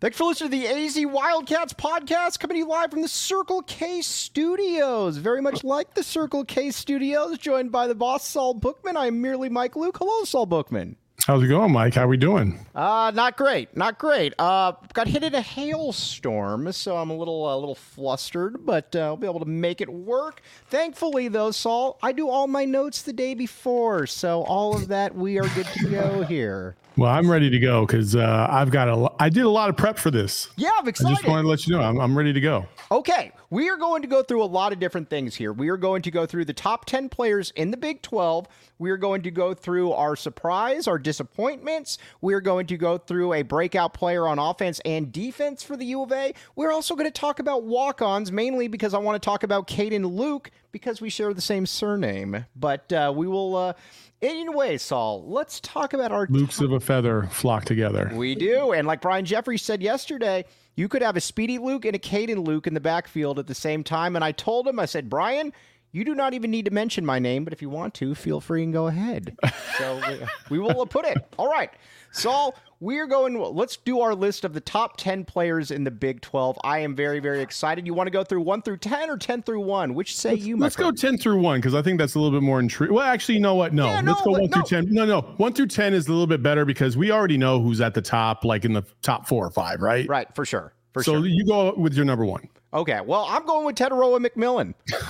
Thanks for listening to the AZ Wildcats podcast, coming to you live from the Circle K Studios. Very much like the Circle K Studios, joined by the boss, Saul Bookman. I'm merely Mike Luke. Hello, Saul Bookman. How's it going, Mike? How we doing? Not great. Got hit in a hailstorm, so I'm a little flustered, but I'll be able to make it work. Thankfully, though, Saul, I do all my notes the day before, so all of that, we are good to go here. Well, I'm ready to go because I did a lot of prep for this. Yeah, I'm excited. I just wanted to let you know I'm ready to go. Okay, we are going to go through a lot of different things here. We are going to go through the top 10 players in the Big 12. We are going to go through our surprise, our disappointments. We are going to go through a breakout player on offense and defense for the U of A. We're also going to talk about walk-ons, mainly because I want to talk about Caden Luke because we share the same surname. But we will... Anyway, Saul, let's talk about our... Lukes of a feather flock together. We do. And like Brian Jeffries said yesterday, you could have a Speedy Luke and a Caden Luke in the backfield at the same time. And I told him, I said, Brian, you do not even need to mention my name, but if you want to, feel free and go ahead. So we will put it. All right. Saul, let's do our list of the top 10 players in the Big 12. I am very, very excited. You want to go through 1 through 10 or 10 through 1? Which say you, my friend? Let's go 10 through 1 because I think that's a little bit more intriguing. Well, actually, you know what? No, let's go 1 through 10. No. 1 through 10 is a little bit better because we already know who's at the top, like in the top 4 or 5, right? Right, for sure. So you go with your number 1. Okay, well, I'm going with Tetaroa McMillan.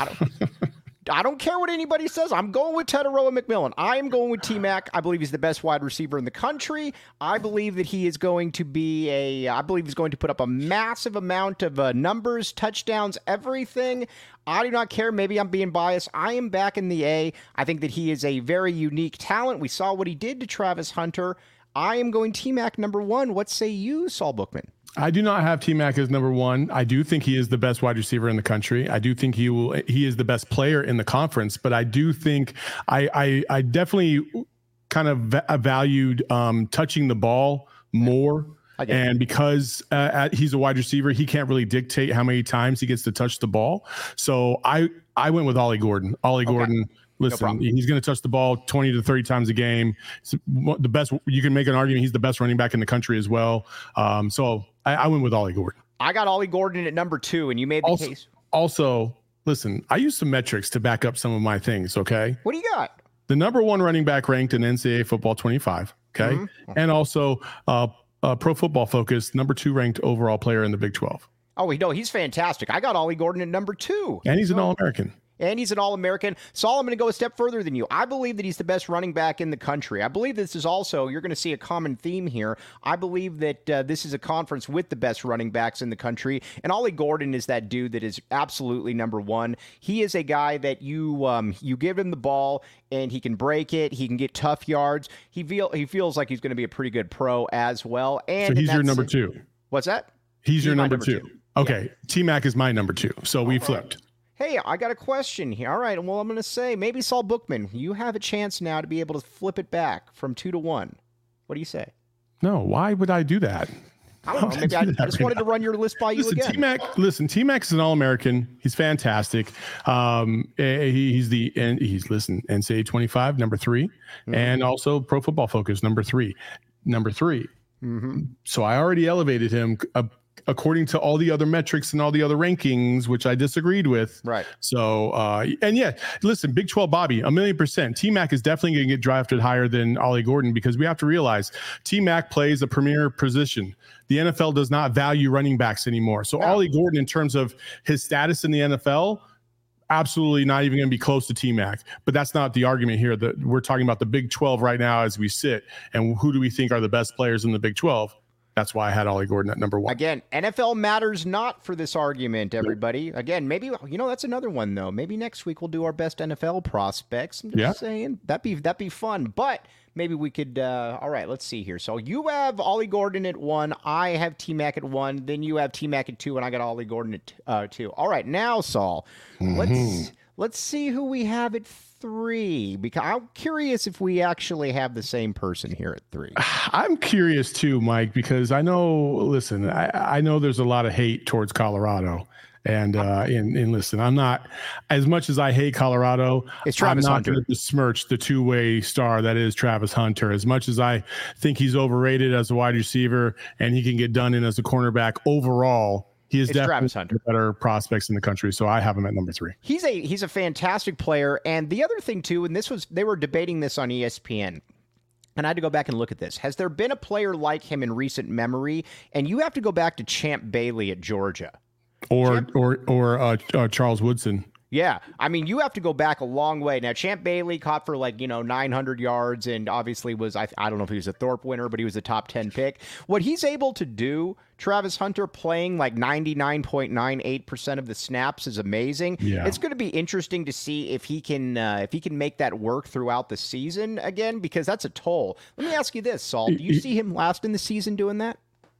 I don't care what anybody says. I'm going with Tetaroa McMillan. I am going with T-Mac. I believe he's the best wide receiver in the country. I believe that he is going to be I believe he's going to put up a massive amount of numbers, touchdowns, everything. I do not care. Maybe I'm being biased. I am back in the A. I think that he is a very unique talent. We saw what he did to Travis Hunter. I am going T-Mac number 1. What say you, Saul Bookman? I do not have T-Mac as number 1. I do think he is the best wide receiver in the country. I do think he is the best player in the conference, but I do think I definitely kind of valued touching the ball more. And because he's a wide receiver, he can't really dictate how many times he gets to touch the ball. So I went with Ollie Gordon. Gordon. Listen, he's going to touch the ball 20 to 30 times a game. It's the best. You can make an argument he's the best running back in the country as well. So I went with Ollie Gordon. I got Ollie Gordon at number 2, and you made the case. Also, listen, I used some metrics to back up some of my things, okay? What do you got? The number 1 running back ranked in NCAA football 25, okay? Mm-hmm. And also Pro Football Focus, number 2 ranked overall player in the Big 12. Oh, no, he's fantastic. I got Ollie Gordon at number 2. And he's an All-American. And he's an All-American. Saul, I'm going to go a step further than you. I believe that he's the best running back in the country. I believe this is also, you're going to see a common theme here. I believe that this is a conference with the best running backs in the country. And Ollie Gordon is that dude that is absolutely number 1. He is a guy that you give him the ball and he can break it. He can get tough yards. He feels like he's going to be a pretty good pro as well. And so he's your number 2. What's that? He's your number 2. Okay. Yeah. T-Mac is my number 2. So we flipped. Hey, I got a question here. All right, well, I'm going to say, maybe Saul Bookman, you have a chance now to be able to flip it back from 2 to 1. What do you say? No, why would I do that? I don't know. Maybe I just wanted to run your list by you again. T-Mac is an All-American. He's fantastic. He's NCAA 25, number 3, and also Pro Football Focus, number 3. Mm-hmm. So I already elevated him according to all the other metrics and all the other rankings, which I disagreed with. Right. So, and yeah, listen, Big 12 Bobby, 1,000,000%. T-Mac is definitely going to get drafted higher than Ollie Gordon because we have to realize T-Mac plays a premier position. The NFL does not value running backs anymore. So Ollie Gordon, in terms of his status in the NFL, absolutely not even going to be close to T-Mac. But that's not the argument here. We're talking about the Big 12 right now as we sit. And who do we think are the best players in the Big 12? That's why I had Ollie Gordon at number 1. Again, NFL matters not for this argument, everybody. Again, maybe, that's another one, though. Maybe next week we'll do our best NFL prospects. I'm just saying, that'd be fun. But maybe we could, all right, let's see here. So you have Ollie Gordon at 1. I have T-Mac at 1. Then you have T-Mac at 2, and I got Ollie Gordon at 2. All right, now, Saul, let's see who we have at 3, because I'm curious if we actually have the same person here at 3. I'm curious too, Mike, because I know, listen, I know there's a lot of hate towards Colorado, And listen, I'm not, as much as I hate Colorado, I'm not going to besmirch the two-way star that is Travis Hunter. As much as I think he's overrated as a wide receiver and he can get done in as a cornerback, overall, he is definitely one of the better prospects in the country. So I have him at number 3. He's a fantastic player. And the other thing too, and they were debating this on ESPN. And I had to go back and look at this. Has there been a player like him in recent memory? And you have to go back to Champ Bailey at Georgia. Or Charles Woodson. Yeah. I mean, you have to go back a long way. Now, Champ Bailey caught for 900 yards and obviously was, I don't know if he was a Thorpe winner, but he was a top 10 pick. What he's able to do, Travis Hunter, playing 99.98% of the snaps is amazing. Yeah. It's going to be interesting to see if he can make that work throughout the season again, because that's a toll. Let me ask you this, Saul. Do you see him last in the season doing that?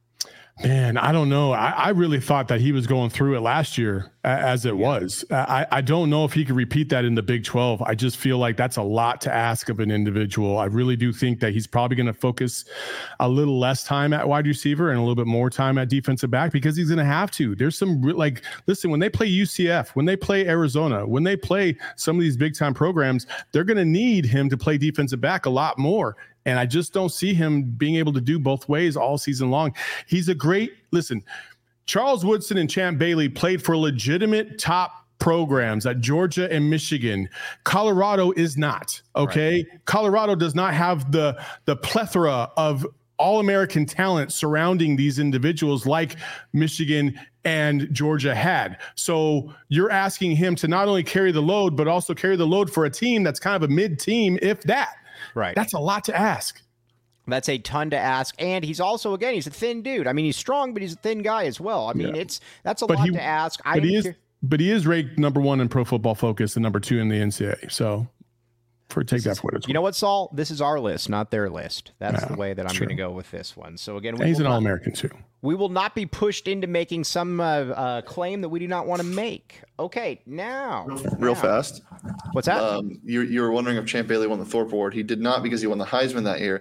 Man, I don't know. I really thought that he was going through it last year as it was. I don't know if he could repeat that in the Big 12. I just feel like that's a lot to ask of an individual. I really do think that he's probably going to focus a little less time at wide receiver and a little bit more time at defensive back because he's going to have to. There's some listen, when they play UCF, when they play Arizona, when they play some of these big time programs, they're going to need him to play defensive back a lot more. And I just don't see him being able to do both ways all season long. He's a great, listen, Charles Woodson and Champ Bailey played for legitimate top programs at Georgia and Michigan. Colorado is not, okay? Right. Colorado does not have the plethora of all-American talent surrounding these individuals like Michigan and Georgia had. So you're asking him to not only carry the load, but also carry the load for a team that's kind of a mid-team, if that. Right. That's a lot to ask. That's a ton to ask. And he's also, again, he's a thin dude. I mean, he's strong, but he's a thin guy as well. I mean, that's a lot to ask. But he is ranked number 1 in Pro Football Focus and number 2 in the NCAA. So take that for what it's worth. You know what, Saul? This is our list, not their list. That's the way that I'm going to go with this one. So again, he's an All-American too. We will not be pushed into making some claim that we do not want to make. Okay, now. Real fast. What's that? You were wondering if Champ Bailey won the Thorpe Award. He did not because he won the Heisman that year.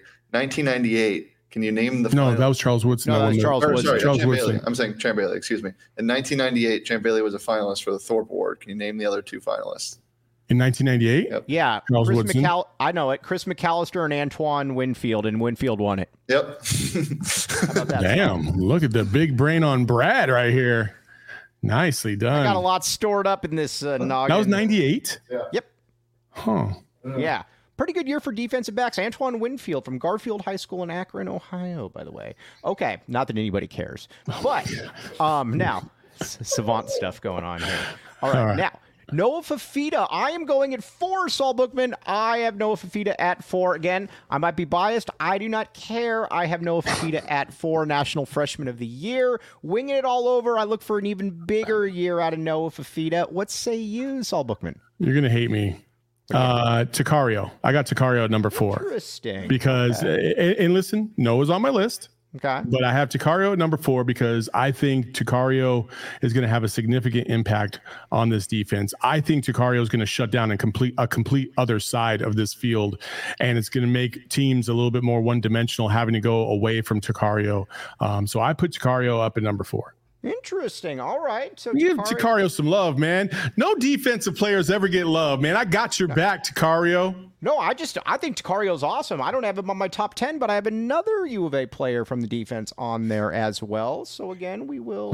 1998. Can you name the No, that was Charles Woodson. No, that was Charles Woodson. Sorry, Charles Champ Woodson. Bailey. I'm saying Champ Bailey, excuse me. In 1998, Champ Bailey was a finalist for the Thorpe Award. Can you name the other 2 finalists? In 1998? Yep. Yeah. Charles Woodson. I know it. Chris McAllister and Antoine Winfield, and Winfield won it. Yep. How about that? Damn, look at the big brain on Brad right here. Nicely done. I got a lot stored up in this noggin. That was 98? Yeah. Yep. Huh. Yeah. Pretty good year for defensive backs. Antoine Winfield from Garfield High School in Akron, Ohio, by the way. Okay. Not that anybody cares. But now, savant stuff going on here. All right. Now, Noah Fifita. I am going at 4, Saul Bookman. I have Noah Fifita at 4. Again, I might be biased. I do not care. I have Noah Fifita at 4, National Freshman of the Year. Winging it all over. I look for an even bigger year out of Noah Fifita. What say you, Saul Bookman? You're going to hate me. Takario. I got Takario at number 4. Interesting. Because, and listen, Noah's on my list. Okay. But I have Takario at number 4 because I think Takario is going to have a significant impact on this defense. I think Takario is going to shut down a complete other side of this field, and it's going to make teams a little bit more one-dimensional, having to go away from Takario. So I put Takario up at number 4. Interesting. All right. So give Takario some love, man. No defensive players ever get love, man. I got your back, Takario. No, I think Takario's awesome. I don't have him on my top 10, but I have another U of A player from the defense on there as well. So again, we will,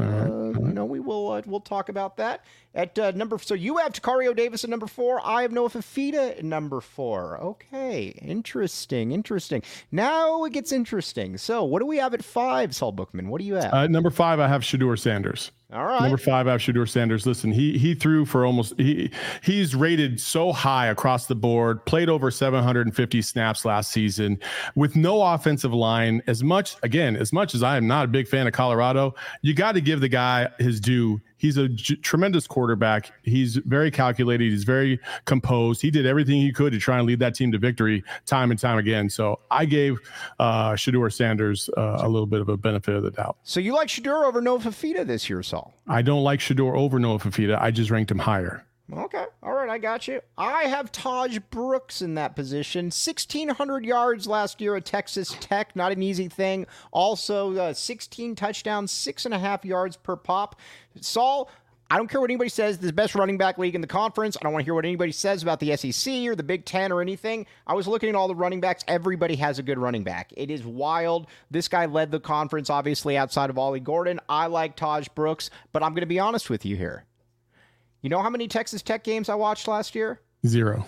we'll talk about that at number. So you have Takario Davis at number 4. I have Noah Fifita at number 4. Okay, interesting. Now it gets interesting. So what do we have at 5, Saul Bookman? What do you have? Number 5, I have Shedeur Sanders. All right. Number 5, I have Shedeur Sanders. Listen, he threw for he's rated so high across the board, played over 750 snaps last season with no offensive line. As much as I am not a big fan of Colorado, you got to give the guy his due. He's a tremendous quarterback. He's very calculated. He's very composed. He did everything he could to try and lead that team to victory time and time again. So I gave Shedeur Sanders a little bit of a benefit of the doubt. So you like Shedeur over Noah Fifita this year, Saul? I don't like Shedeur over Noah Fifita. I just ranked him higher. Okay. All right. I got you. I have Taj Brooks in that position. 1,600 yards last year at Texas Tech. Not an easy thing. Also, 16 touchdowns, 6.5 yards per pop. Saul, I don't care what anybody says. This is the best running back league in the conference. I don't want to hear what anybody says about the SEC or the Big Ten or anything. I was looking at all the running backs. Everybody has a good running back. It is wild. This guy led the conference, obviously, outside of Ollie Gordon. I like Taj Brooks, but I'm going to be honest with you here. You know how many Texas Tech games I watched last year? 0.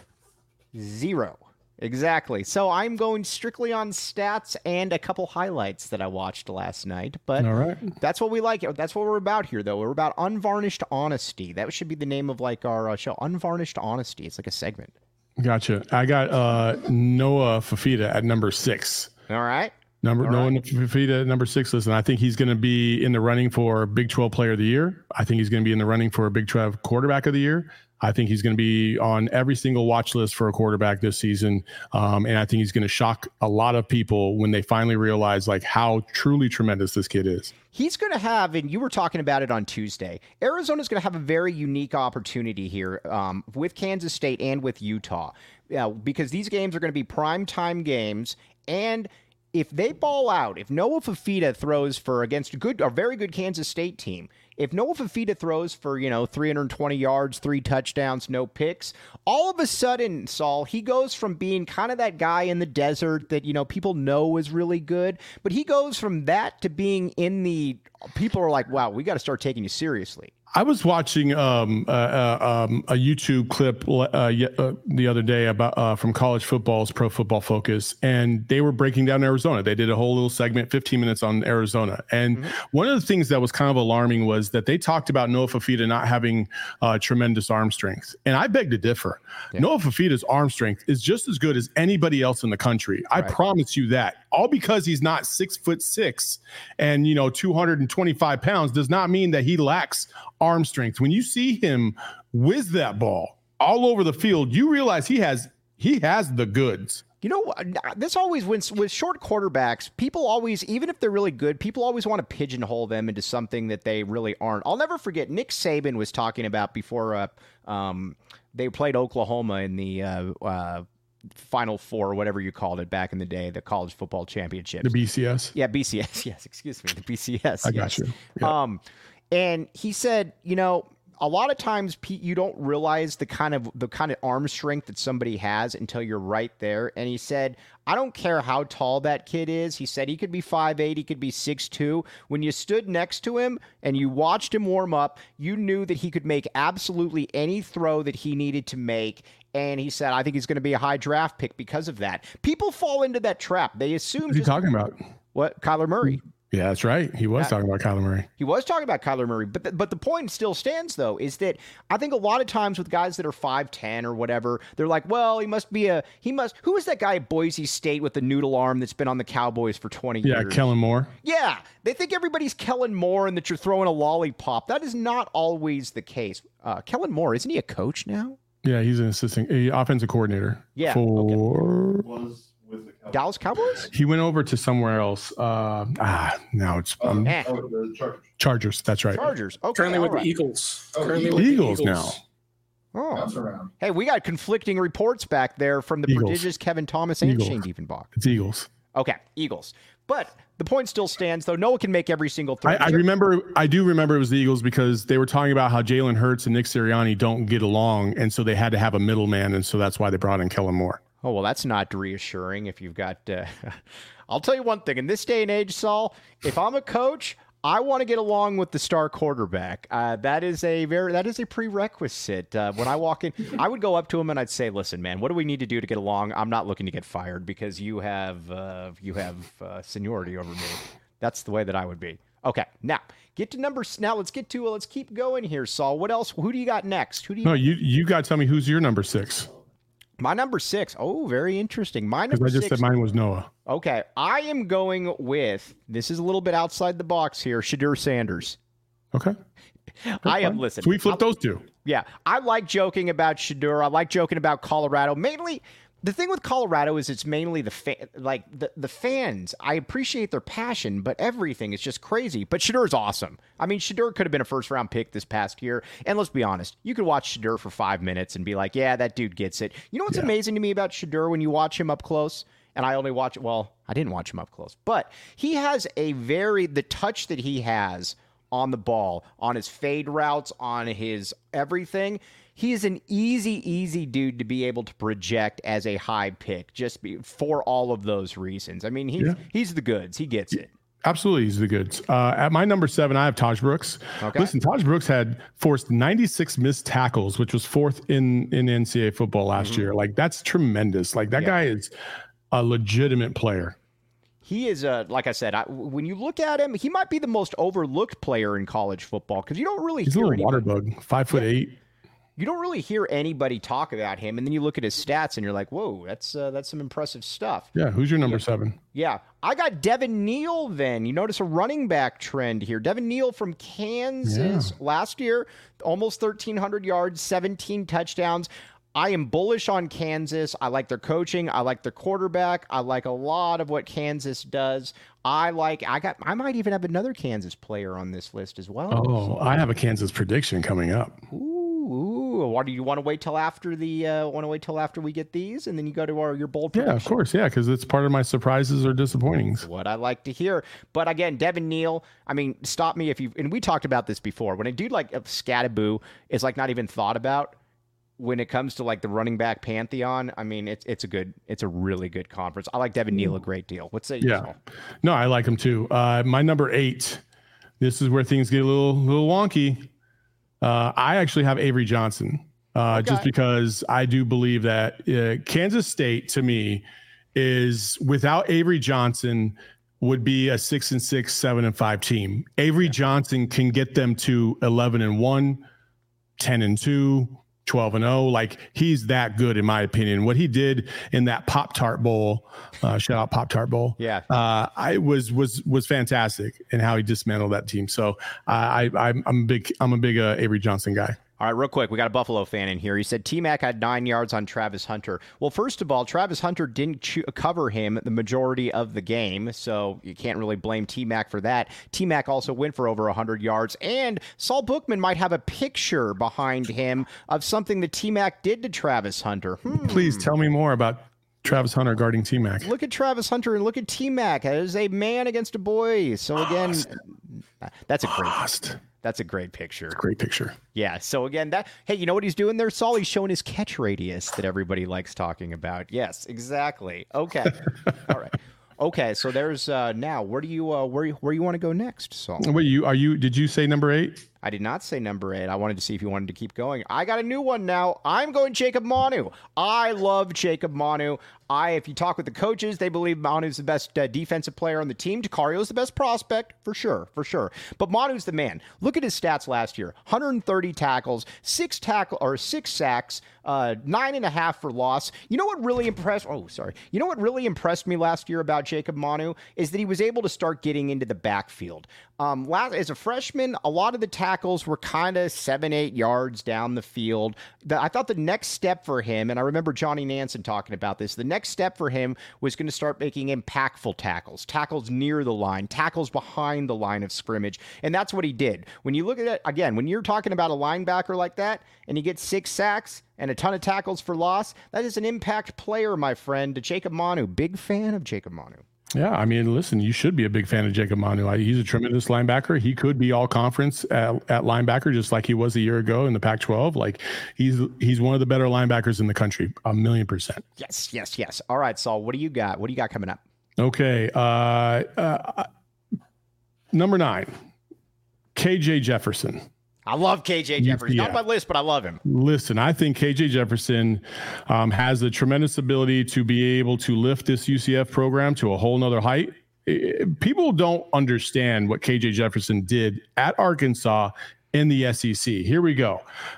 Exactly. So I'm going strictly on stats and a couple highlights that I watched last night. But all right, that's what we like. That's what we're about here, though. We're about unvarnished honesty. That should be the name of like our show, Unvarnished Honesty. It's like a segment. Gotcha. I got Noah Fafita at number 6. All right. Noah Fafita at number 6. Listen, I think he's going to be in the running for Big 12 Player of the Year. I think he's going to be in the running for Big 12 Quarterback of the Year. I think he's going to be on every single watch list for a quarterback this season. And I think he's going to shock a lot of people when they finally realize like how truly tremendous this kid is. He's going to have, and you were talking about it on Tuesday, Arizona's going to have a very unique opportunity here with Kansas State and with Utah because these games are going to be primetime games. And if they ball out, if Noah Fafita throws for against a very good Kansas State team, if Noah Fafita throws for, 320 yards, 3 touchdowns, no picks, all of a sudden, Saul, he goes from being kind of that guy in the desert that, people know is really good, but he goes from that to being people are like, wow, we got to start taking you seriously. I was watching a YouTube clip the other day about from College Football's Pro Football Focus, and they were breaking down Arizona. They did a whole little segment, 15 minutes on Arizona. And one of the things that was kind of alarming was that they talked about Noah Fafita not having tremendous arm strength. And I beg to differ. Yeah. Noah Fafita's arm strength is just as good as anybody else in the country. Right. I promise you that. All because he's not 6'6" and 225 pounds does not mean that he lacks arm strength. When you see him whiz that ball all over the field, you realize he has the goods. This always wins with short quarterbacks. People always, even if they're really good, people always want to pigeonhole them into something that they really aren't. I'll never forget Nick Saban was talking about before they played Oklahoma in the Final Four, or whatever you called it back in the day, the college football championship. The BCS? Yeah, BCS. Yes, excuse me. The BCS. I got you. Yeah. And he said, a lot of times you don't realize the kind of arm strength that somebody has until you're right there. And he said, I don't care how tall that kid is. He said he could be 5'8", he could be 6'2". When you stood next to him and you watched him warm up, you knew that he could make absolutely any throw that he needed to make. And he said, I think he's going to be a high draft pick because of that. People fall into that trap. They assume. What's he talking about? What? Kyler Murray. Yeah, that's right. He was talking about Kyler Murray. He was talking about Kyler Murray. But the point still stands, though, is that I think a lot of times with guys that are 5'10" or whatever, they're like, well, who is that guy at Boise State with the noodle arm that's been on the Cowboys for 20 years? Yeah, Kellen Moore. Yeah, they think everybody's Kellen Moore and that you're throwing a lollipop. That is not always the case. Kellen Moore, isn't he a coach now? Yeah, he's an offensive coordinator. Yeah. Was with the Dallas Cowboys? He went over to somewhere else. Now it's the Chargers. That's right. Chargers. Okay. Currently with the Eagles. Eagles now. Oh. Hey, we got conflicting reports back there from the prodigious Kevin Thomas and Shane Diefenbach. It's Eagles. Okay, Eagles. But the point still stands, though. Noah can make every single throw. I do remember it was the Eagles because they were talking about how Jalen Hurts and Nick Sirianni don't get along, and so they had to have a middleman, and so that's why they brought in Kellen Moore. Oh, well, that's not reassuring if you've got I'll tell you one thing. In this day and age, Saul, if I'm a coach, I want to get along with the star quarterback. That is a prerequisite. When I walk in, I would go up to him and I'd say, "Listen, man, what do we need to do to get along? I'm not looking to get fired because you have seniority over me." That's the way that I would be. Okay, now get to numbers. Now let's keep going here, Saul. What else? Who do you got next? You got to tell me who's your number 6. My number 6. Oh, very interesting. My number 6. I just said mine was Noah. Okay. I am going with, this is a little bit outside the box here, Shedeur Sanders. Okay. Listen. So we flipped those two. Yeah. I like joking about Shedeur. I like joking about Colorado. Mainly, the thing with Colorado is it's mainly the fans. I appreciate their passion, but everything is just crazy. But Shedeur's awesome. I mean, Shedeur could have been a first-round pick this past year. And let's be honest, you could watch Shedeur for 5 minutes and be like, yeah, that dude gets it. You know what's amazing to me about Shedeur when you watch him up close? And I didn't watch him up close. But he has the touch that he has on the ball, on his fade routes, on his everything. He's an easy dude to be able to project as a high pick for all of those reasons. I mean, he's the goods. He gets it. Absolutely, he's the goods. At my number 7, I have Taj Brooks. Okay. Listen, Taj Brooks had forced 96 missed tackles, which was 4th in NCAA football last year. Like, that's tremendous. Like, that guy is a legitimate player. He is, like I said, when you look at him, he might be the most overlooked player in college football because you don't really he's hear a little water bug, 5'8". You don't really hear anybody talk about him, and then you look at his stats, and you're like, "Whoa, that's some impressive stuff." Yeah, who's your number 7? Yeah, I got Devin Neal. Then you notice a running back trend here. Devin Neal from Kansas last year, almost 1,300 yards, 17 touchdowns. I am bullish on Kansas. I like their coaching. I like their quarterback. I like a lot of what Kansas does. I might even have another Kansas player on this list as well. Oh, I have a Kansas prediction coming up. Ooh, what do you want to wait till after we get these, and then you go to your bold prediction? Yeah, of course, yeah, because it's part of my surprises or disappointings. What I like to hear. But again, Devin Neal, I mean, stop me if you, and we talked about this before, when a dude like Scattaboo is like not even thought about when it comes to like the running back pantheon. I mean, it's a really good conference. I like Devin Neal a great deal. What's that? Yeah, no, I like him too. My number 8, this is where things get a little wonky. I actually have Avery Johnson, just because I do believe that Kansas State, to me, is without Avery Johnson would be a 6-6, 7-5 team. Avery Johnson can get them to 11-1, 10-2, 12-0. Like, he's that good, in my opinion. What he did in that Pop-Tart Bowl, shout out Pop-Tart Bowl. Yeah. I was fantastic in how he dismantled that team. So I'm a big Avery Johnson guy. All right, real quick, we got a Buffalo fan in here. He said T-Mac had 9 yards on Travis Hunter. Well, first of all, Travis Hunter didn't cover him the majority of the game, so you can't really blame T-Mac for that. T-Mac also went for over 100 yards, and Saul Bookman might have a picture behind him of something that T-Mac did to Travis Hunter. Please tell me more about Travis Hunter guarding T-Mac. Look at Travis Hunter and look at T-Mac as a man against a boy. So again, that's a great picture. Great picture. Yeah. So again, hey, you know what he's doing there, Saul? He's showing his catch radius that everybody likes talking about. Yes, exactly. Okay. All right. Okay. So there's now. Where you want to go next, Saul? Wait, did you say number 8? I did not say number 8. I wanted to see if you wanted to keep going. I got a new one now. I'm going Jacob Manu. I love Jacob Manu. If you talk with the coaches, they believe Manu's the best defensive player on the team. Dacario's the best prospect, for sure. But Manu's the man. Look at his stats last year. 130 tackles, 6 sacks, 9.5 for loss. You know what really impressed me last year about Jacob Manu is that he was able to start getting into the backfield. As a freshman, a lot of the tackles were kind of 7-8 yards down the field. I thought the next step for him, and I remember Johnny Nansen talking about this, the next step for him was going to start making impactful tackles near the line, tackles behind the line of scrimmage, and that's what he did. When you look at it, again, when you're talking about a linebacker like that, and he gets 6 sacks and a ton of tackles for loss, that is an impact player, my friend. Jacob Manu, big fan of Jacob Manu. Yeah, I mean, listen, you should be a big fan of Jacob Manu. He's a tremendous linebacker. He could be all conference at linebacker, just like he was a year ago in the Pac-12. Like, he's one of the better linebackers in the country, 1,000,000%. Yes. All right, Saul, what do you got? What do you got coming up? Okay. Number 9, KJ Jefferson. I love KJ Jefferson. Not on my list, but I love him. Listen, I think KJ Jefferson has a tremendous ability to be able to lift this UCF program to a whole nother height. People don't understand what KJ Jefferson did at Arkansas in the SEC. Here we go.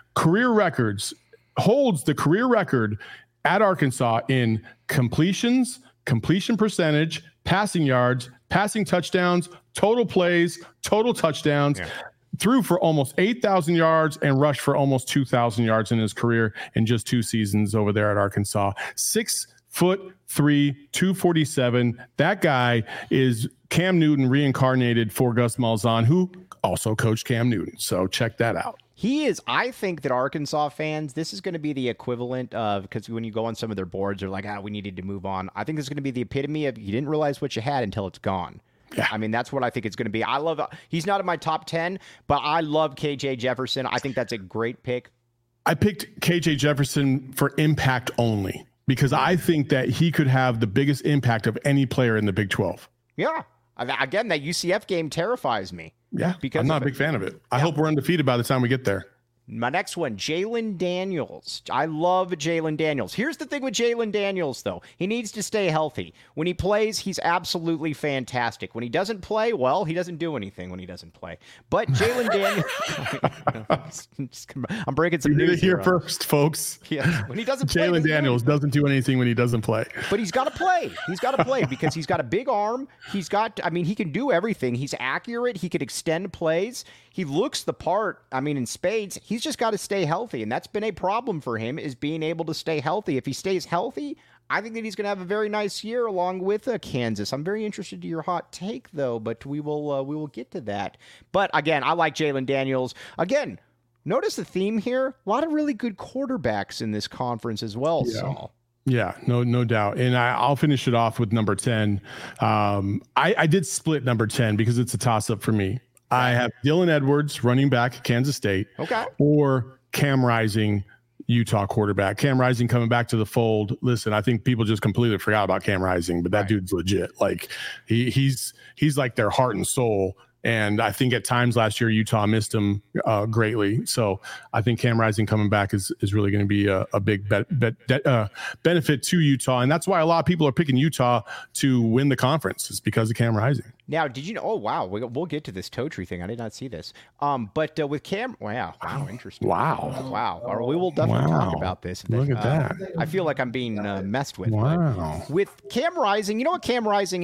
Holds the career record at Arkansas in completions, completion percentage, passing yards, passing touchdowns, total plays, total touchdowns. Yeah. Threw for almost 8,000 yards and rushed for almost 2,000 yards in his career in just 2 seasons over there at Arkansas. 6'3", 247. That guy is Cam Newton reincarnated for Gus Malzahn, who also coached Cam Newton. So check that out. He is. I think that Arkansas fans, this is going to be the equivalent of, because when you go on some of their boards, they're like, we needed to move on. I think this is going to be the epitome of you didn't realize what you had until it's gone. Yeah. I mean, that's what I think it's going to be. He's not in my top 10, but I love KJ Jefferson. I think that's a great pick. I picked KJ Jefferson for impact only because I think that he could have the biggest impact of any player in the Big 12. Yeah. Again, that UCF game terrifies me. Yeah, because I'm not a big fan of it. I hope we're undefeated by the time we get there. My next one, Jalen Daniels. I love Jalen Daniels. Here's the thing with Jalen Daniels, though. He needs to stay healthy. When he plays, he's absolutely fantastic. When he doesn't play, well, he doesn't do anything when he doesn't play. But Jalen Daniels... I'm breaking some news here first, folks. Yeah, when he doesn't play... Jalen Daniels doesn't do anything when he doesn't play. But he's got to play. He's got to play because he's got a big arm. He can do everything. He's accurate. He could extend plays. He looks the part, in spades. He's just got to stay healthy, and that's been a problem for him, is being able to stay healthy. If he stays healthy, I think that he's going to have a very nice year along with Kansas. I'm very interested to your hot take, though, but we will get to that. But, again, I like Jalen Daniels. Again, notice the theme here. A lot of really good quarterbacks in this conference as well, Saul. Yeah, no doubt. And I'll finish it off with number 10. I did split number 10 because it's a toss-up for me. I have Dylan Edwards, running back, Kansas State. Okay. Or Cam Rising, Utah quarterback. Cam Rising coming back to the fold. Listen, I think people just completely forgot about Cam Rising, but that dude's legit. Like he's like their heart and soul. And I think at times last year, Utah missed him greatly. So I think Cam Rising coming back is really going to be a big benefit to Utah. And that's why a lot of people are picking Utah to win the conference. It's because of Cam Rising. Now, did you know? Oh, wow. We'll get to this toe tree thing. I did not see this. But with Cam, wow, interesting. Wow. We will definitely talk about this. Look at that. I feel like I'm being messed with. Wow. With Cam Rising, you know what Cam Rising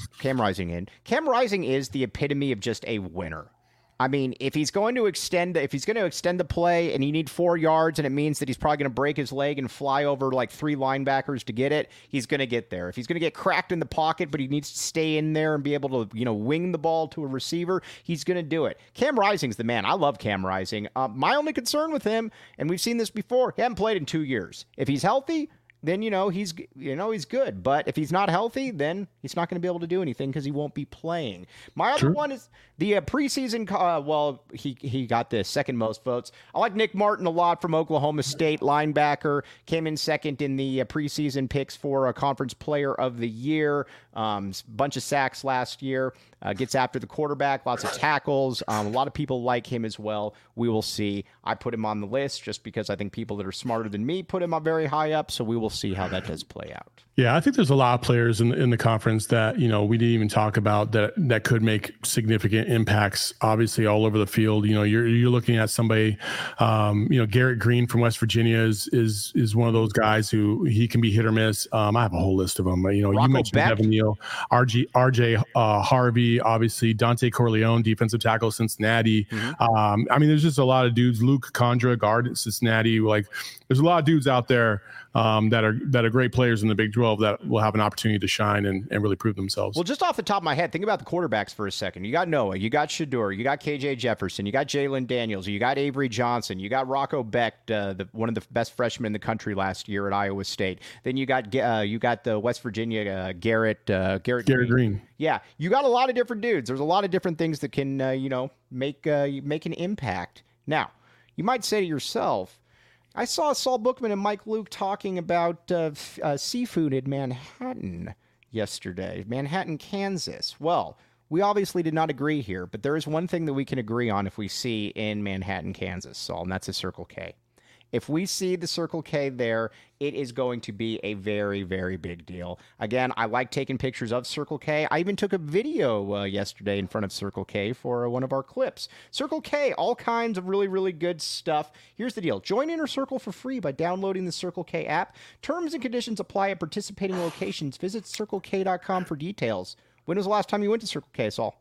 is the epitome of just a winner. I mean, if he's going to extend the play and you need 4 yards and it means that he's probably going to break his leg and fly over like 3 linebackers to get it, he's going to get there. If he's going to get cracked in the pocket, but he needs to stay in there and be able to, wing the ball to a receiver, he's going to do it. Cam Rising's the man. I love Cam Rising. My only concern with him, and we've seen this before, he hasn't played in 2 years. If he's healthy, then he's good. But if he's not healthy, then he's not going to be able to do anything because he won't be playing. My other one is the preseason. He got the second most votes. I like Nick Martin a lot from Oklahoma State, linebacker. Came in second in the preseason picks for a Conference Player of the Year. Bunch of sacks last year. Gets after the quarterback. Lots of tackles. A lot of people like him as well. We will see. I put him on the list just because I think people that are smarter than me put him up very high up. So we will see how that does play out. Yeah, I think there's a lot of players in the conference that, we didn't even talk about that could make significant impacts, obviously, all over the field. You're looking at somebody, Garrett Green from West Virginia is one of those guys who he can be hit or miss. I have a whole list of them. You mentioned Beck. Devin Neal, RJ Harvey, obviously, Dante Corleone, defensive tackle, Cincinnati. Mm-hmm. There's just a lot of dudes. Luke Condra, guard at Cincinnati. Like, there's a lot of dudes out there that are great players in the Big 12 that will have an opportunity to shine and really prove themselves. Well, just off the top of my head, think about the quarterbacks for a second. You got Noah, you got Shedeur, you got KJ Jefferson, you got Jalen Daniels, you got Avery Johnson, you got Rocco Beck, one of the best freshmen in the country last year at Iowa State. Then you got the West Virginia Garrett Green. Yeah, you got a lot of different dudes. There's a lot of different things that can make an impact. Now, you might say to yourself, I saw Saul Bookman and Mike Luke talking about seafood in Manhattan yesterday, Manhattan, Kansas. Well, we obviously did not agree here, but there is one thing that we can agree on if we see in Manhattan, Kansas, Saul, and that's a Circle K. If we see the Circle K there, it is going to be a very, very big deal. Again, I like taking pictures of Circle K. I even took a video yesterday in front of Circle K for one of our clips. Circle K, all kinds of really, really good stuff. Here's the deal. Join Inner Circle for free by downloading the Circle K app. Terms and conditions apply at participating locations. Visit CircleK.com for details. When was the last time you went to Circle K, Saul?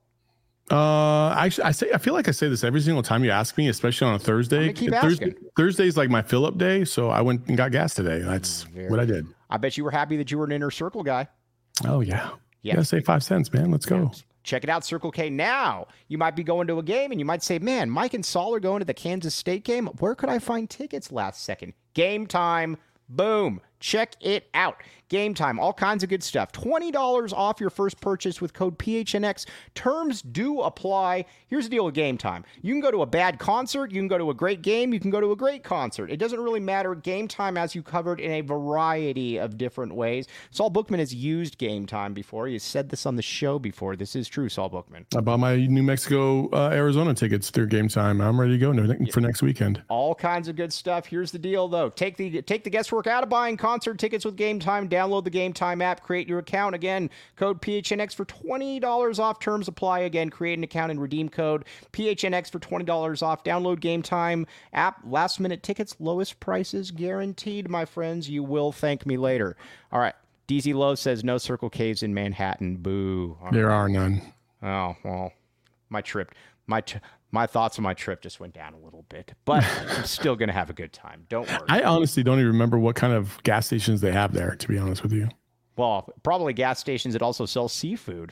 I feel like I say this every single time you ask me, especially on a Thursday. Thursday's like my fill-up day, so I went and got gas today. That's what I did. I bet you were happy that you were an Inner Circle guy. Oh yeah. You gotta save 5 cents, man. Let's go. Check it out, Circle K now. You might be going to a game and you might say, man, Mike and Saul are going to the Kansas State game. Where could I find tickets last second? Game time. Boom. Check it out. Game Time, all kinds of good stuff. $20 off your first purchase with code PHNX. Terms do apply. Here's the deal with Game Time. You can go to a bad concert. You can go to a great game. You can go to a great concert. It doesn't really matter. Game Time has you covered in a variety of different ways. Saul Bookman has used Game Time before. He has said this on the show before. This is true, Saul Bookman. I bought my New Mexico, Arizona tickets through Game Time. I'm ready to go for next weekend. All kinds of good stuff. Here's the deal, though. Take the guesswork out of buying concert tickets with Game Time. Download the Game Time app. Create your account. Again, code PHNX for $20 off. Terms apply. Again, create an account and redeem code PHNX for $20 off. Download Game Time app. Last minute tickets. Lowest prices guaranteed, my friends. You will thank me later. All right. DZ Lowe says no Circle K's in Manhattan. Boo. There are none. Oh, well, my thoughts on my trip just went down a little bit, but I'm still going to have a good time. Don't worry. I honestly don't even remember what kind of gas stations they have there, to be honest with you. Well, probably gas stations that also sell seafood.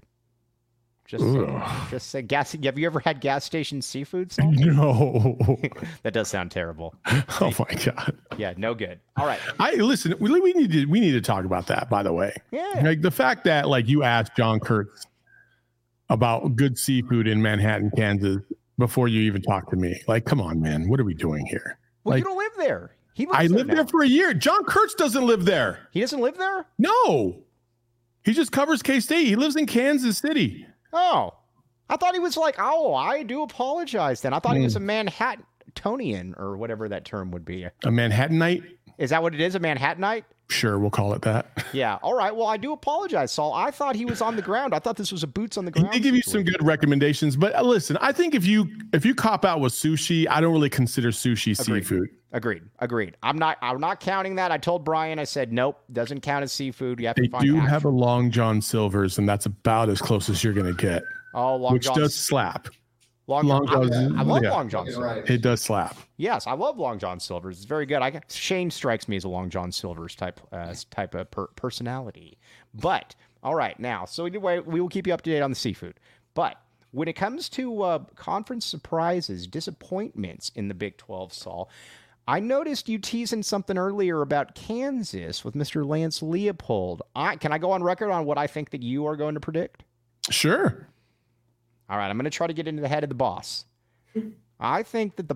Just say gas. Have you ever had gas station seafood? Saul? No. That does sound terrible. Oh my God. Yeah, no good. All right. Listen. We need to talk about that. By the way, Yeah. like the fact that like you asked John Kurtz about good seafood in Manhattan, Kansas, before you even talk to me. Like, come on, man. What are we doing here? Well, like, you don't live there. I lived there for a year. John Kurtz doesn't live there. He doesn't live there? No. He just covers K-State. He lives in Kansas City. Oh. I thought he was like, oh, I do apologize then. I thought he was a Manhattanian or whatever that term would be. A Manhattanite? Is that what it is, a Manhattanite? Sure, we'll call it that. Yeah. All right. Well, I do apologize, Saul. I thought he was on the ground. I thought this was a boots on the ground. He did give you some good recommendations, but listen, I think if you cop out with sushi, I don't really consider sushi seafood. Agreed. I'm not counting that. I told Brian, I said, nope, doesn't count as seafood. You have to find have a Long John Silver's, and that's about as close as you're going to get. Oh, Long Which John does slap. Long John. I love Long John Silver's. It does slap. Yes, I love Long John Silver's. It's very good. Shane strikes me as a Long John Silver's type of personality. But all right, now, so either way, we will keep you up to date on the seafood. But when it comes to conference surprises, disappointments in the Big 12, Saul, I noticed you teasing something earlier about Kansas with Mr. Lance Leopold. Can I go on record on what I think that you are going to predict? Sure. All right, I'm going to try to get into the head of the boss. I think that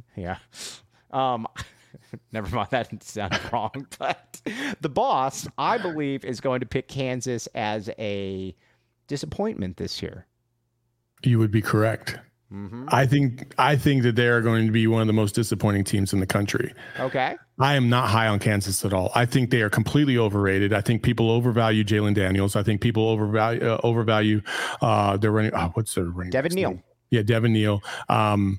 never mind, that sounded wrong. But the boss, I believe, is going to pick Kansas as a disappointment this year. You would be correct. Mm-hmm. I think that they are going to be one of the most disappointing teams in the country. Okay. I am not high on Kansas at all. I think they are completely overrated. I think people overvalue Jalen Daniels. I think people overvalue their running. What's their running? Devin Neal. Yeah, Devin Neal. I'm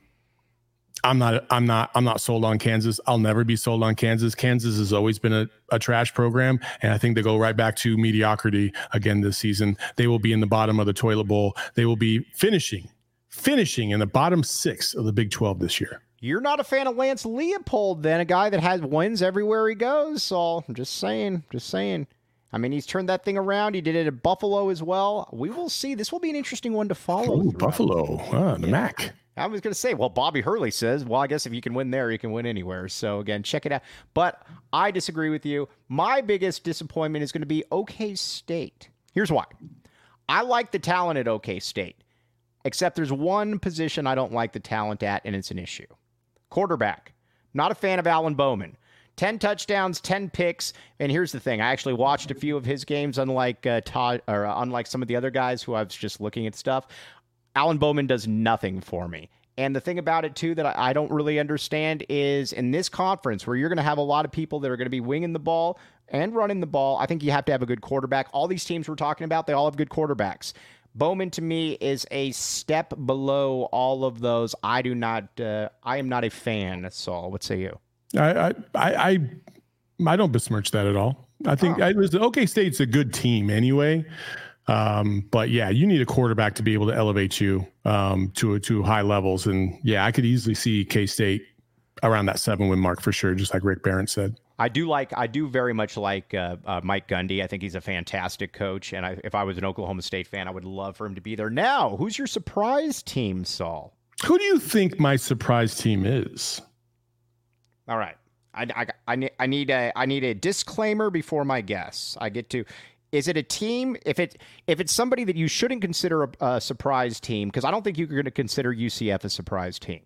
not sold on Kansas. I'll never be sold on Kansas. Kansas has always been a trash program, and I think they go right back to mediocrity again this season. They will be in the bottom of the toilet bowl. They will be finishing in the bottom 6 of the Big 12 this year. You're not a fan of Lance Leopold, then, a guy that has wins everywhere he goes. So I'm just saying. I mean, he's turned that thing around. He did it at Buffalo as well. We will see. This will be an interesting one to follow. Ooh, Buffalo, the MAC. I was going to say, well, Bobby Hurley says, well, I guess if you can win there, you can win anywhere. So, again, check it out. But I disagree with you. My biggest disappointment is going to be OK State. Here's why. I like the talent at OK State, except there's one position I don't like the talent at, and it's an issue. Quarterback. Not a fan of Alan Bowman. 10 touchdowns, 10 picks. And here's the thing. I actually watched a few of his games, unlike unlike some of the other guys who I was just looking at stuff. Alan Bowman does nothing for me. And the thing about it, too, that I don't really understand is in this conference where you're going to have a lot of people that are going to be winging the ball and running the ball, I think you have to have a good quarterback. All these teams we're talking about, they all have good quarterbacks. Bowman, to me, is a step below all of those. I am not a fan, Saul. What say you? I don't besmirch that at all. I think OK State's a good team anyway. But yeah, you need a quarterback to be able to elevate you to high levels. And yeah, I could easily see K-State around that 7-win mark for sure, just like Rick Barron said. I do very much like Mike Gundy. I think he's a fantastic coach. And if I was an Oklahoma State fan, I would love for him to be there. Now, who's your surprise team, Saul? Who do you think my surprise team is? All right. I need a disclaimer before my guess. I get to. Is it a team? If it's somebody that you shouldn't consider a surprise team, because I don't think you're going to consider UCF a surprise team,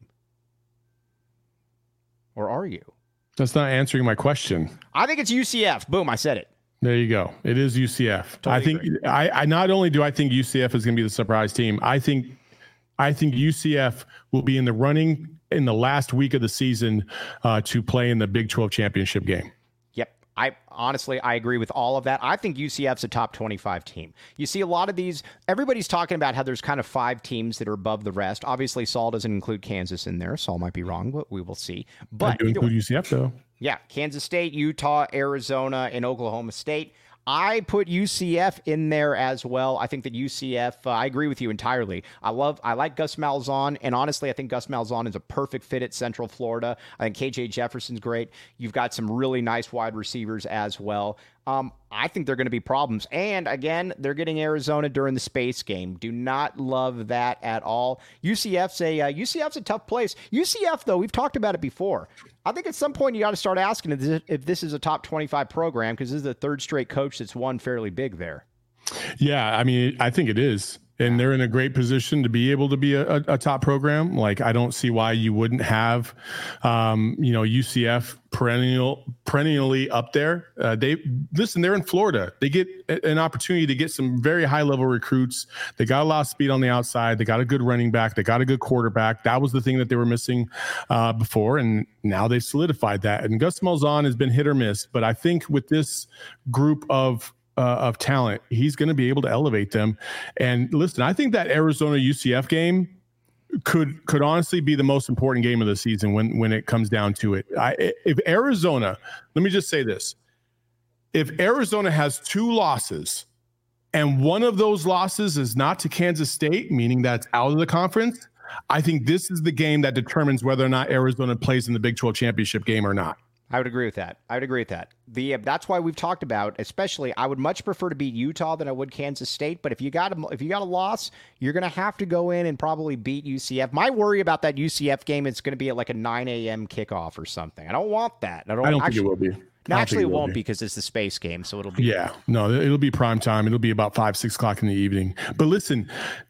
or are you? That's not answering my question. I think it's UCF. Boom! I said it. There you go. It is UCF. Totally I think agree. I not only do I think UCF is going to be the surprise team. I think UCF will be in the running in the last week of the season to play in the Big 12 championship game. Yep. I agree with all of that. I think UCF's a top 25 team. You see a lot of these, everybody's talking about how there's kind of 5 teams that are above the rest. Obviously, Saul doesn't include Kansas in there. Saul might be wrong, but we will see. But I do include UCF, though. Yeah, Kansas State, Utah, Arizona, and Oklahoma State. I put UCF in there as well. I think that UCF, I agree with you entirely. I like Gus Malzahn, and honestly, I think Gus Malzahn is a perfect fit at Central Florida. I think KJ Jefferson's great. You've got some really nice wide receivers as well. I think they're going to be problems. And again, they're getting Arizona during the space game. Do not love that at all. UCF's a tough place. UCF, though, we've talked about it before. I think at some point you got to start asking if this is a top 25 program, because this is the third straight coach that's won fairly big there. Yeah, I mean, I think it is. And they're in a great position to be able to be a top program. Like, I don't see why you wouldn't have, UCF perennially up there. They're in Florida. They get an opportunity to get some very high level recruits. They got a lot of speed on the outside. They got a good running back. They got a good quarterback. That was the thing that they were missing before. And now they've solidified that. And Gus Malzahn has been hit or miss. But I think with this group of talent, he's going to be able to elevate them. And listen, I think that Arizona UCF game could honestly be the most important game of the season when it comes down to it. If Arizona, let me just say this. If Arizona has 2 losses and one of those losses is not to Kansas State, meaning that's out of the conference, I think this is the game that determines whether or not Arizona plays in the Big 12 championship game or not. I would agree with that. That's why we've talked about, especially, I would much prefer to beat Utah than I would Kansas State. But if you got a loss, you're going to have to go in and probably beat UCF. My worry about that UCF game is going to be at like a 9 a.m. kickoff or something. I don't want that. I don't think it will be. No, actually, it won't be because it's the space game, so it'll be. Yeah, no, it'll be prime time. It'll be about 5-6 o'clock in the evening. But listen,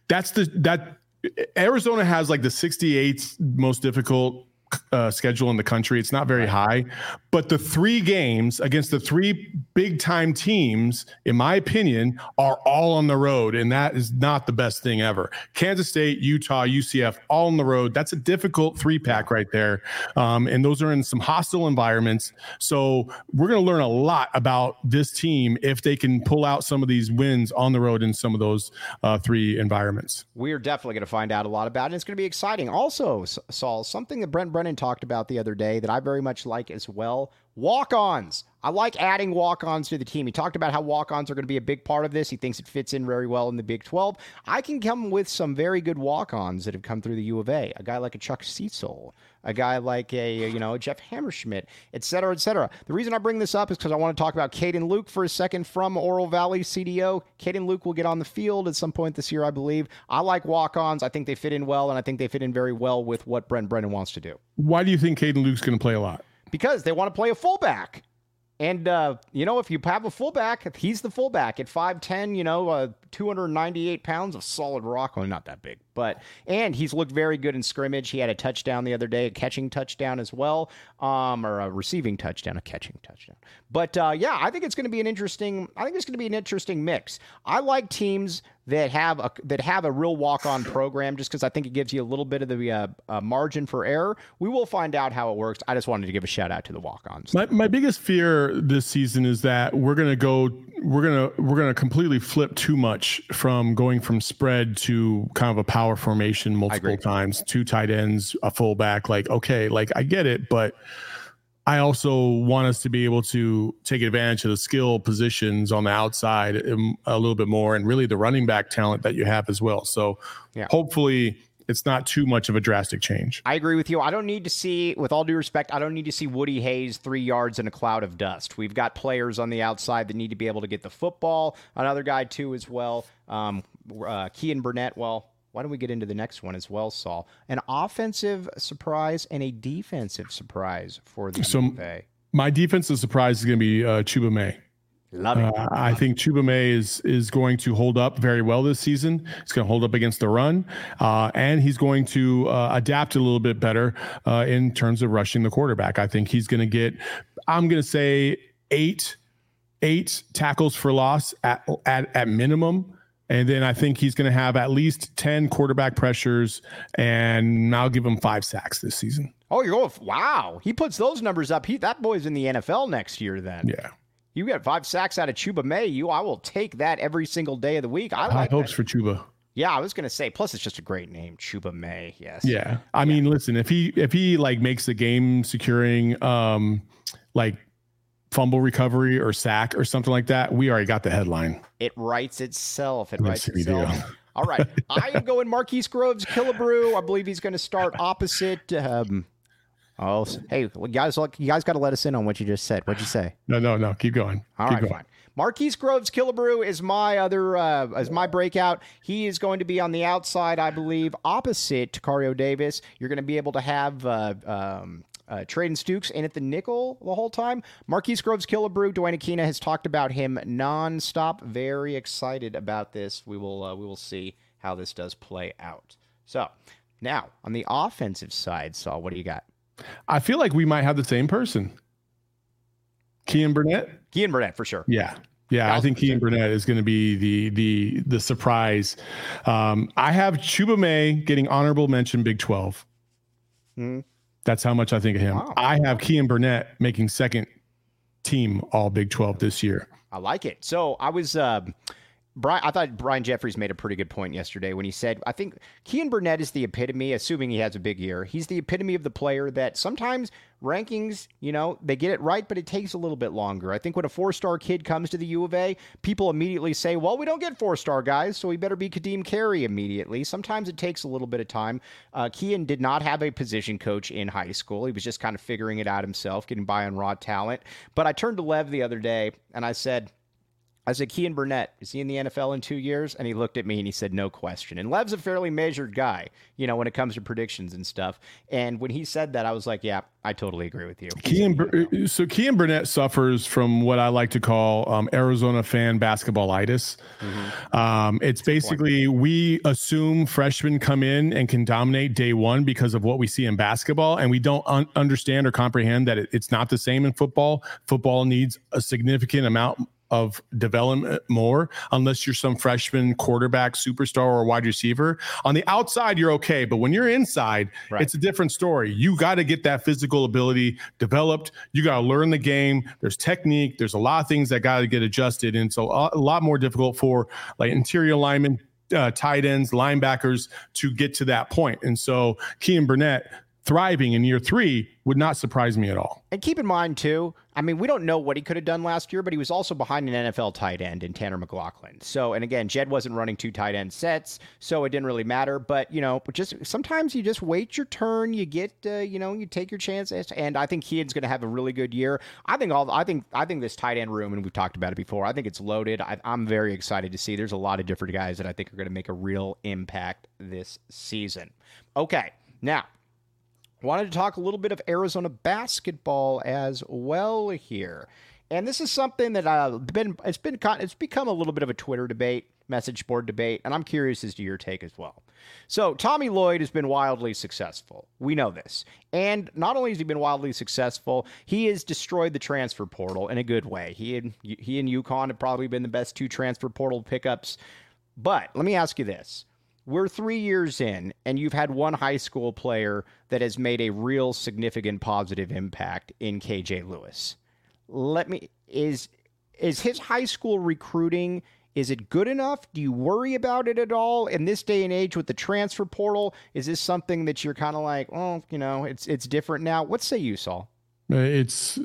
Arizona has like the 68th most difficult schedule in the country. It's not very high, but the 3 games against the 3 big time teams, in my opinion, are all on the road. And that is not the best thing ever. Kansas State, Utah, UCF, all on the road. That's a difficult 3-pack right there. And those are in some hostile environments. So we're going to learn a lot about this team if they can pull out some of these wins on the road in some of those 3 environments. We're definitely going to find out a lot about it. It's going to be exciting. Also, Saul, something that Brent Brennan talked about the other day that I very much like as well. Walk-ons. I like adding walk-ons to the team. He talked about how walk-ons are going to be a big part of this. He thinks it fits in very well in the Big 12. I can come with some very good walk-ons that have come through the U of A. A guy like a Chuck Cecil, a guy like a Jeff Hammerschmidt, et cetera, et cetera. The reason I bring this up is because I want to talk about Caden Luke for a second from Oro Valley CDO. Caden Luke will get on the field at some point this year, I believe. I like walk-ons. I think they fit in well, and I think they fit in very well with what Brent Brennan wants to do. Why do you think Caden Luke's going to play a lot? Because they want to play a fullback. And, if you have a fullback, he's the fullback at 5'10", 298 pounds of solid rock. Well, not that big, and he's looked very good in scrimmage. He had a touchdown the other day, a catching touchdown as well, or a receiving touchdown, a catching touchdown. But, I think it's going to be an interesting mix. I like teams that have a real walk-on program just because I think it gives you a little bit of the margin for error. We will find out how it works. I just wanted to give a shout out to the walk-ons. My biggest fear this season is that we're gonna completely flip too much from going from spread to kind of a power formation multiple times, 2 tight ends, a fullback. Like, okay, like I get it, but I also want us to be able to take advantage of the skill positions on the outside a little bit more, and really the running back talent that you have as well. So hopefully it's not too much of a drastic change. I agree with you. I don't need to see, with all due respect, I don't need to see Woody Hayes 3 yards in a cloud of dust. We've got players on the outside that need to be able to get the football. Another guy too as well. Kean Burnett, why don't we get into the next one as well, Saul? An offensive surprise and a defensive surprise for the U of A. My defensive surprise is going to be Chuba May. Love it. I think Chuba May is going to hold up very well this season. He's going to hold up against the run, and he's going to adapt a little bit better in terms of rushing the quarterback. I think he's going to get, I'm going to say, eight tackles for loss at minimum. And then I think he's going to have at least 10 quarterback pressures, and I'll give him 5 sacks this season. Oh, you're going, wow. He puts those numbers up. That boy's in the NFL next year then. Yeah. You got 5 sacks out of Chuba May. I will take that every single day of the week. I like hopes for Chuba. Yeah, I was going to say, plus it's just a great name, Chuba May. Yes. Yeah. I mean, listen, if he like makes the game securing like fumble recovery or sack or something like that, we already got the headline. It writes itself. All right. I am going Marquise Groves Killebrew. I believe he's going to start opposite. Hey, you guys got to let us in on what you just said. What'd you say? No. Keep going. All right, fine. Marquise Groves Killebrew is my breakout. He is going to be on the outside, I believe, opposite Tacario Davis. You're going to be able to have Traden Stukes in at the nickel the whole time. Marquise Groves Killebrew, Dwayne Aquina has talked about him nonstop. Very excited about this. We will see how this does play out. So now on the offensive side, Saul, what do you got? I feel like we might have the same person. Kean Burnett? Kean Burnett, for sure. Yeah. I think Kean Burnett is going to be the surprise. I have Chuba May getting honorable mention Big 12. That's how much I think of him. Wow. I have Kean Burnett making second team all Big 12 this year. I like it. So I was I thought Brian Jeffries made a pretty good point yesterday when he said, I think Kean Burnett is the epitome, assuming he has a big year. He's the epitome of the player that sometimes rankings, they get it right, but it takes a little bit longer. I think when a 4-star kid comes to the U of A, people immediately say, well, we don't get 4-star guys, so we better be Kadeem Carey immediately. Sometimes it takes a little bit of time. Kean did not have a position coach in high school. He was just kind of figuring it out himself, getting by on raw talent. But I turned to Lev the other day and I said, Kean Burnett, is he in the NFL in 2 years? And he looked at me and he said, no question. And Lev's a fairly measured guy, when it comes to predictions and stuff. And when he said that, I was like, yeah, I totally agree with you. Kean Burnett suffers from what I like to call Arizona fan basketballitis. It's basically we assume freshmen come in and can dominate day one because of what we see in basketball. And we don't understand or comprehend that it's not the same in football. Football needs a significant amount of development more, unless you're some freshman quarterback, superstar, or wide receiver. On the outside, you're okay. But when you're inside, It's a different story. You got to get that physical ability developed. You got to learn the game. There's technique. There's a lot of things that got to get adjusted. And so a lot more difficult for like interior linemen, tight ends, linebackers to get to that point. And so Kean Burnett thriving in year 3 would not surprise me at all. And keep in mind, too, I mean, we don't know what he could have done last year, but he was also behind an NFL tight end in Tanner McLaughlin. So, and again, Jed wasn't running 2 tight end sets, so it didn't really matter. But, just sometimes you just wait your turn. You get, you take your chances. And I think Kean's going to have a really good year. I think this tight end room, and we've talked about it before, I think it's loaded. I'm very excited to see. There's a lot of different guys that I think are going to make a real impact this season. Okay, now, wanted to talk a little bit of Arizona basketball as well here. And this is something that it's become a little bit of a Twitter debate, message board debate, and I'm curious as to your take as well. So Tommy Lloyd has been wildly successful. We know this. And not only has he been wildly successful, he has destroyed the transfer portal in a good way. He and UConn have probably been the best 2 transfer portal pickups. But let me ask you this. We're 3 years in, and you've had one high school player that has made a real significant positive impact in KJ Lewis. Is his high school recruiting, is it good enough? Do you worry about it at all in this day and age with the transfer portal? Is this something that you're kind of like, it's different now? What say you, Saul? It's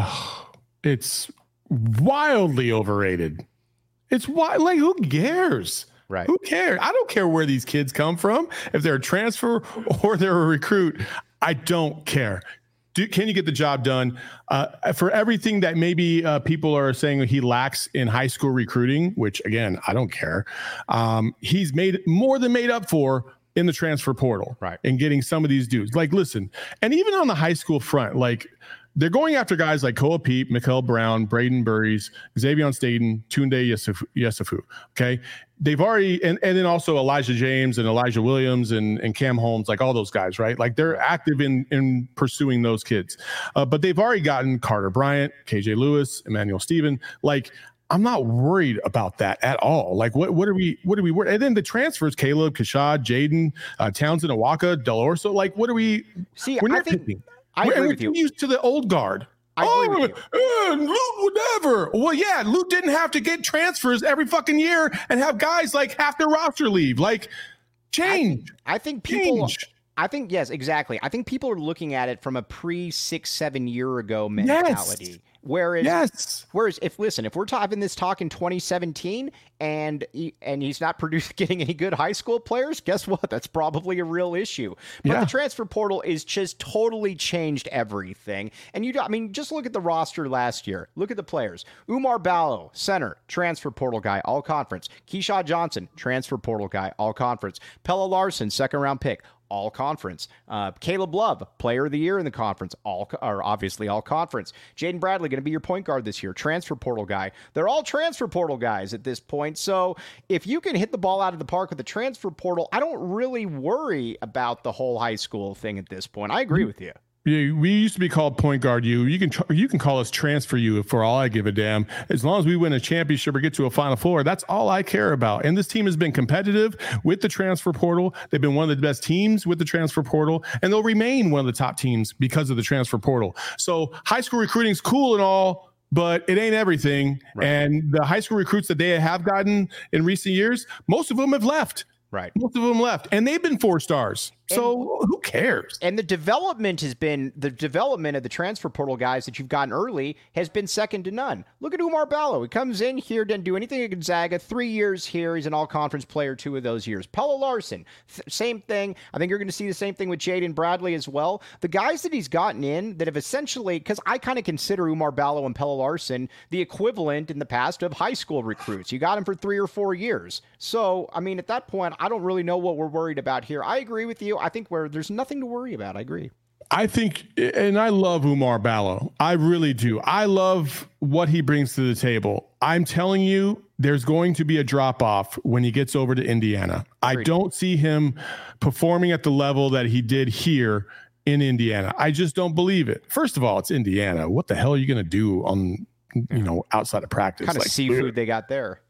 wildly overrated. Who cares? Right. Who cares? I don't care where these kids come from. If they're a transfer or they're a recruit, I don't care. can you get the job done? For everything that maybe people are saying he lacks in high school recruiting, which again, I don't care. He's made more than made up for in the transfer portal, right? And getting some of these dudes. Like, listen, and even on the high school front, like they're going after guys like Koa Peep, Mikael Brown, Braden Burries, Xavier Staten, Tunde Yesufu. Okay. They've already, and then also Elijah James and Elijah Williams and Cam Holmes, like all those guys, right? Like they're active in pursuing those kids. But they've already gotten Carter Bryant, KJ Lewis, Emmanuel Stephen. Like, I'm not worried about that at all. Like, what are we worried? And then the transfers, Caleb, Kashad, Jaden, Townsend, Awaka, Del Orso. Like, what are we? See, we're I think picking. I agree with you. Used to the old guard. Loot, whatever. Well, yeah, Loot didn't have to get transfers every fucking year and have guys like half their roster leave. Like, change. I think people. I think, yes, exactly. I think people are looking at it from a 6-7 year ago mentality. Yes. Whereas if we're having this talk in 2017 and he's not getting any good high school players, guess what? That's probably a real issue. But the transfer portal is just totally changed everything. And just look at the roster last year. Look at the players. Umar Ballo, center, transfer portal guy, all conference. Keyshawn Johnson, transfer portal guy, all conference. Pella Larson, second round pick, all conference. Caleb Love, player of the year in the conference, obviously all conference. Jaden Bradley going to be your point guard this year, transfer portal guy. They're all transfer portal guys at this point. So if you can hit the ball out of the park with the transfer portal, I don't really worry about the whole high school thing at this point. I agree with you. Yeah, we used to be called point guard U. You can call us transfer U for all I give a damn. As long as we win a championship or get to a Final Four, that's all I care about. And this team has been competitive with the transfer portal. They've been one of the best teams with the transfer portal, and they'll remain one of the top teams because of the transfer portal. So high school recruiting is cool and all, but it ain't everything. Right. And the high school recruits that they have gotten in recent years, most of them have left. Right. Most of them left, and they've been 4 stars. So who cares? And the development of the transfer portal guys that you've gotten early has been second to none. Look at Umar Ballo. He comes in here, didn't do anything at Gonzaga. 3 years here. He's an all-conference player 2 of those years. Pella Larson, same thing. I think you're going to see the same thing with Jaden Bradley as well. The guys that he's gotten in that have essentially, because I kind of consider Umar Ballo and Pella Larson the equivalent in the past of high school recruits. You got them for 3 or 4 years. So, at that point, I don't really know what we're worried about here. I agree with you. I think there's nothing to worry about. I agree. I think, and I love Umar Ballo. I really do. I love what he brings to the table. I'm telling you, there's going to be a drop-off when he gets over to Indiana. I don't see him performing at the level that he did here in Indiana. I just don't believe it. First of all, it's Indiana. What the hell are you going to do on, outside of practice? What kind of seafood they got there?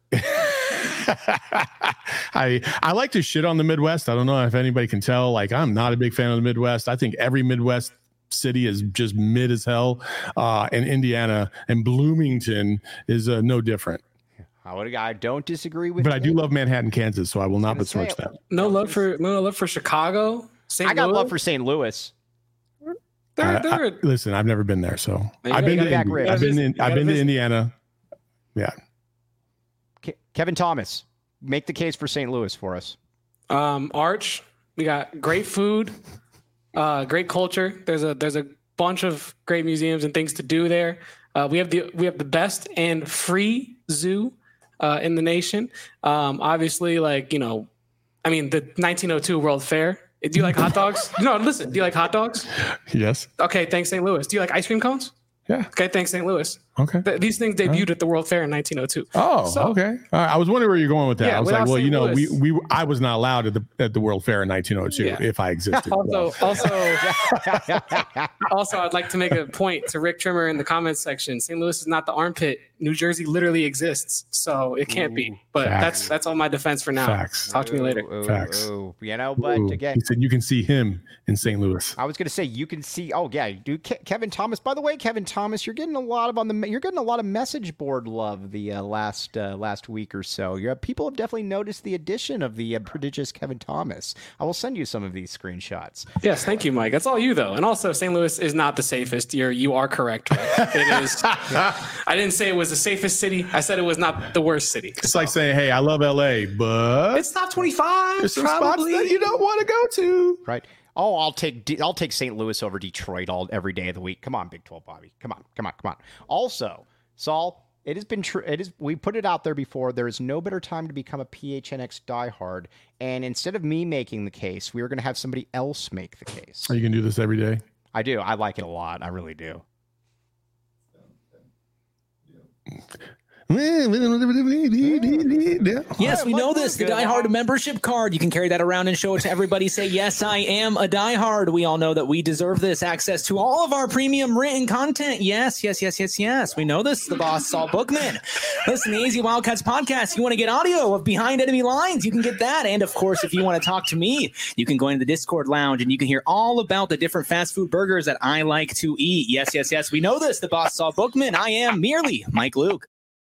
I like to shit on the Midwest. I don't know if anybody can tell. Like, I'm not a big fan of the Midwest. I think every Midwest city is just mid as hell. And Indiana and Bloomington is no different. I don't disagree with but you. I do love Manhattan, Kansas, so I will not besmirch that. No love for Chicago. I got love for St. Louis. Listen, I've never been there, so I've been to Indiana. Yeah. Kevin Thomas, make the case for St. Louis for us. Arch, we got great food, great culture. There's a bunch of great museums and things to do there. We have the best and free zoo in the nation. Obviously, the 1902 World Fair. Do you like hot dogs? No, listen. Do you like hot dogs? Yes. Okay, thanks, St. Louis. Do you like ice cream cones? Yeah. Okay, thanks, St. Louis. Okay. These things debuted at the World Fair in 1902. Oh, so, okay. I was wondering where you're going with that. Yeah, I was like, well, I was not allowed at the World Fair in 1902 if I existed. Also, I'd like to make a point to Rick Trimmer in the comments section. St. Louis is not the armpit. New Jersey literally exists, so it can't be. But that's all my defense for now. Facts. Talk to me later. Facts. But again, he said you can see him in St. Louis. I was going to say you can see. Oh yeah, dude. Kevin Thomas. By the way, Kevin Thomas, you're getting a lot of message board love the last week or so. People have definitely noticed the addition of the prodigious Kevin Thomas. I will send you some of these screenshots. Yes, thank you, Mike. That's all you though. And also, St. Louis is not the safest. You are correct. Right? It is. I didn't say it was the safest city. I said it was not the worst city. It's like saying, "Hey, I love LA, but it's top 25." There's some spots that you don't want to go to. Right. Oh, I'll take St. Louis over Detroit every day of the week. Come on, Big 12, Bobby. Come on. Also, Saul, it has been true. We put it out there before. There is no better time to become a PHNX diehard. And instead of me making the case, we are going to have somebody else make the case. Are you going to do this every day? I do. I like it a lot. I really do. Yes, we know this. The Die Hard membership card. You can carry that around and show it to everybody. Say, yes, I am a Die Hard. We all know that we deserve this access to all of our premium written content. Yes. We know this. The boss, Saul Bookman. Listen, the AZ Wildcats podcast. You want to get audio of Behind Enemy Lines? You can get that. And of course, if you want to talk to me, you can go into the Discord lounge and you can hear all about the different fast food burgers that I like to eat. Yes. We know this. The boss, Saul Bookman. I am merely Mike Luke.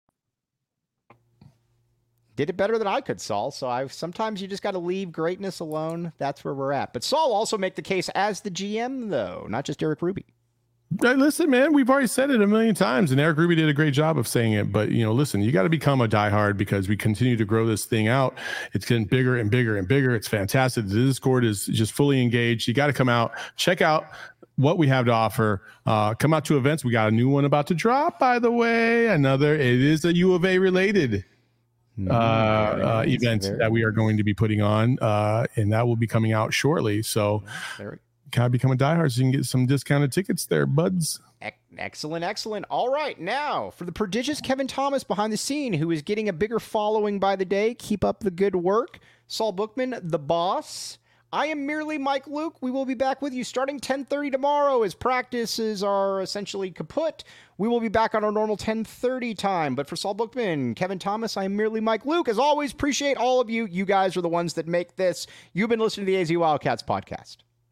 Did it better than I could, Saul. So sometimes you just got to leave greatness alone. That's where we're at. But Saul also make the case as the GM, though, not just Eric Ruby. Listen, man, we've already said it a million times, and Eric Ruby did a great job of saying it. But, listen, you got to become a diehard because we continue to grow this thing out. It's getting bigger and bigger and bigger. It's fantastic. The Discord is just fully engaged. You got to come out, check out what we have to offer. Come out to events. We got a new one about to drop, by the way. It is a U of A related event that we are going to be putting on, and that will be coming out shortly. So gotta become a diehard so you can get some discounted tickets there, buds. Excellent. All right, now for the prodigious Kevin Thomas behind the scene, who is getting a bigger following by the day. Keep up the good work. Saul Bookman, the boss. I am merely Mike Luke. We will be back with you starting 10:30 tomorrow as practices are essentially kaput. We will be back on our normal 10:30 time. But for Saul Bookman, Kevin Thomas, I am merely Mike Luke. As always, appreciate all of you. You guys are the ones that make this. You've been listening to the AZ Wildcats podcast.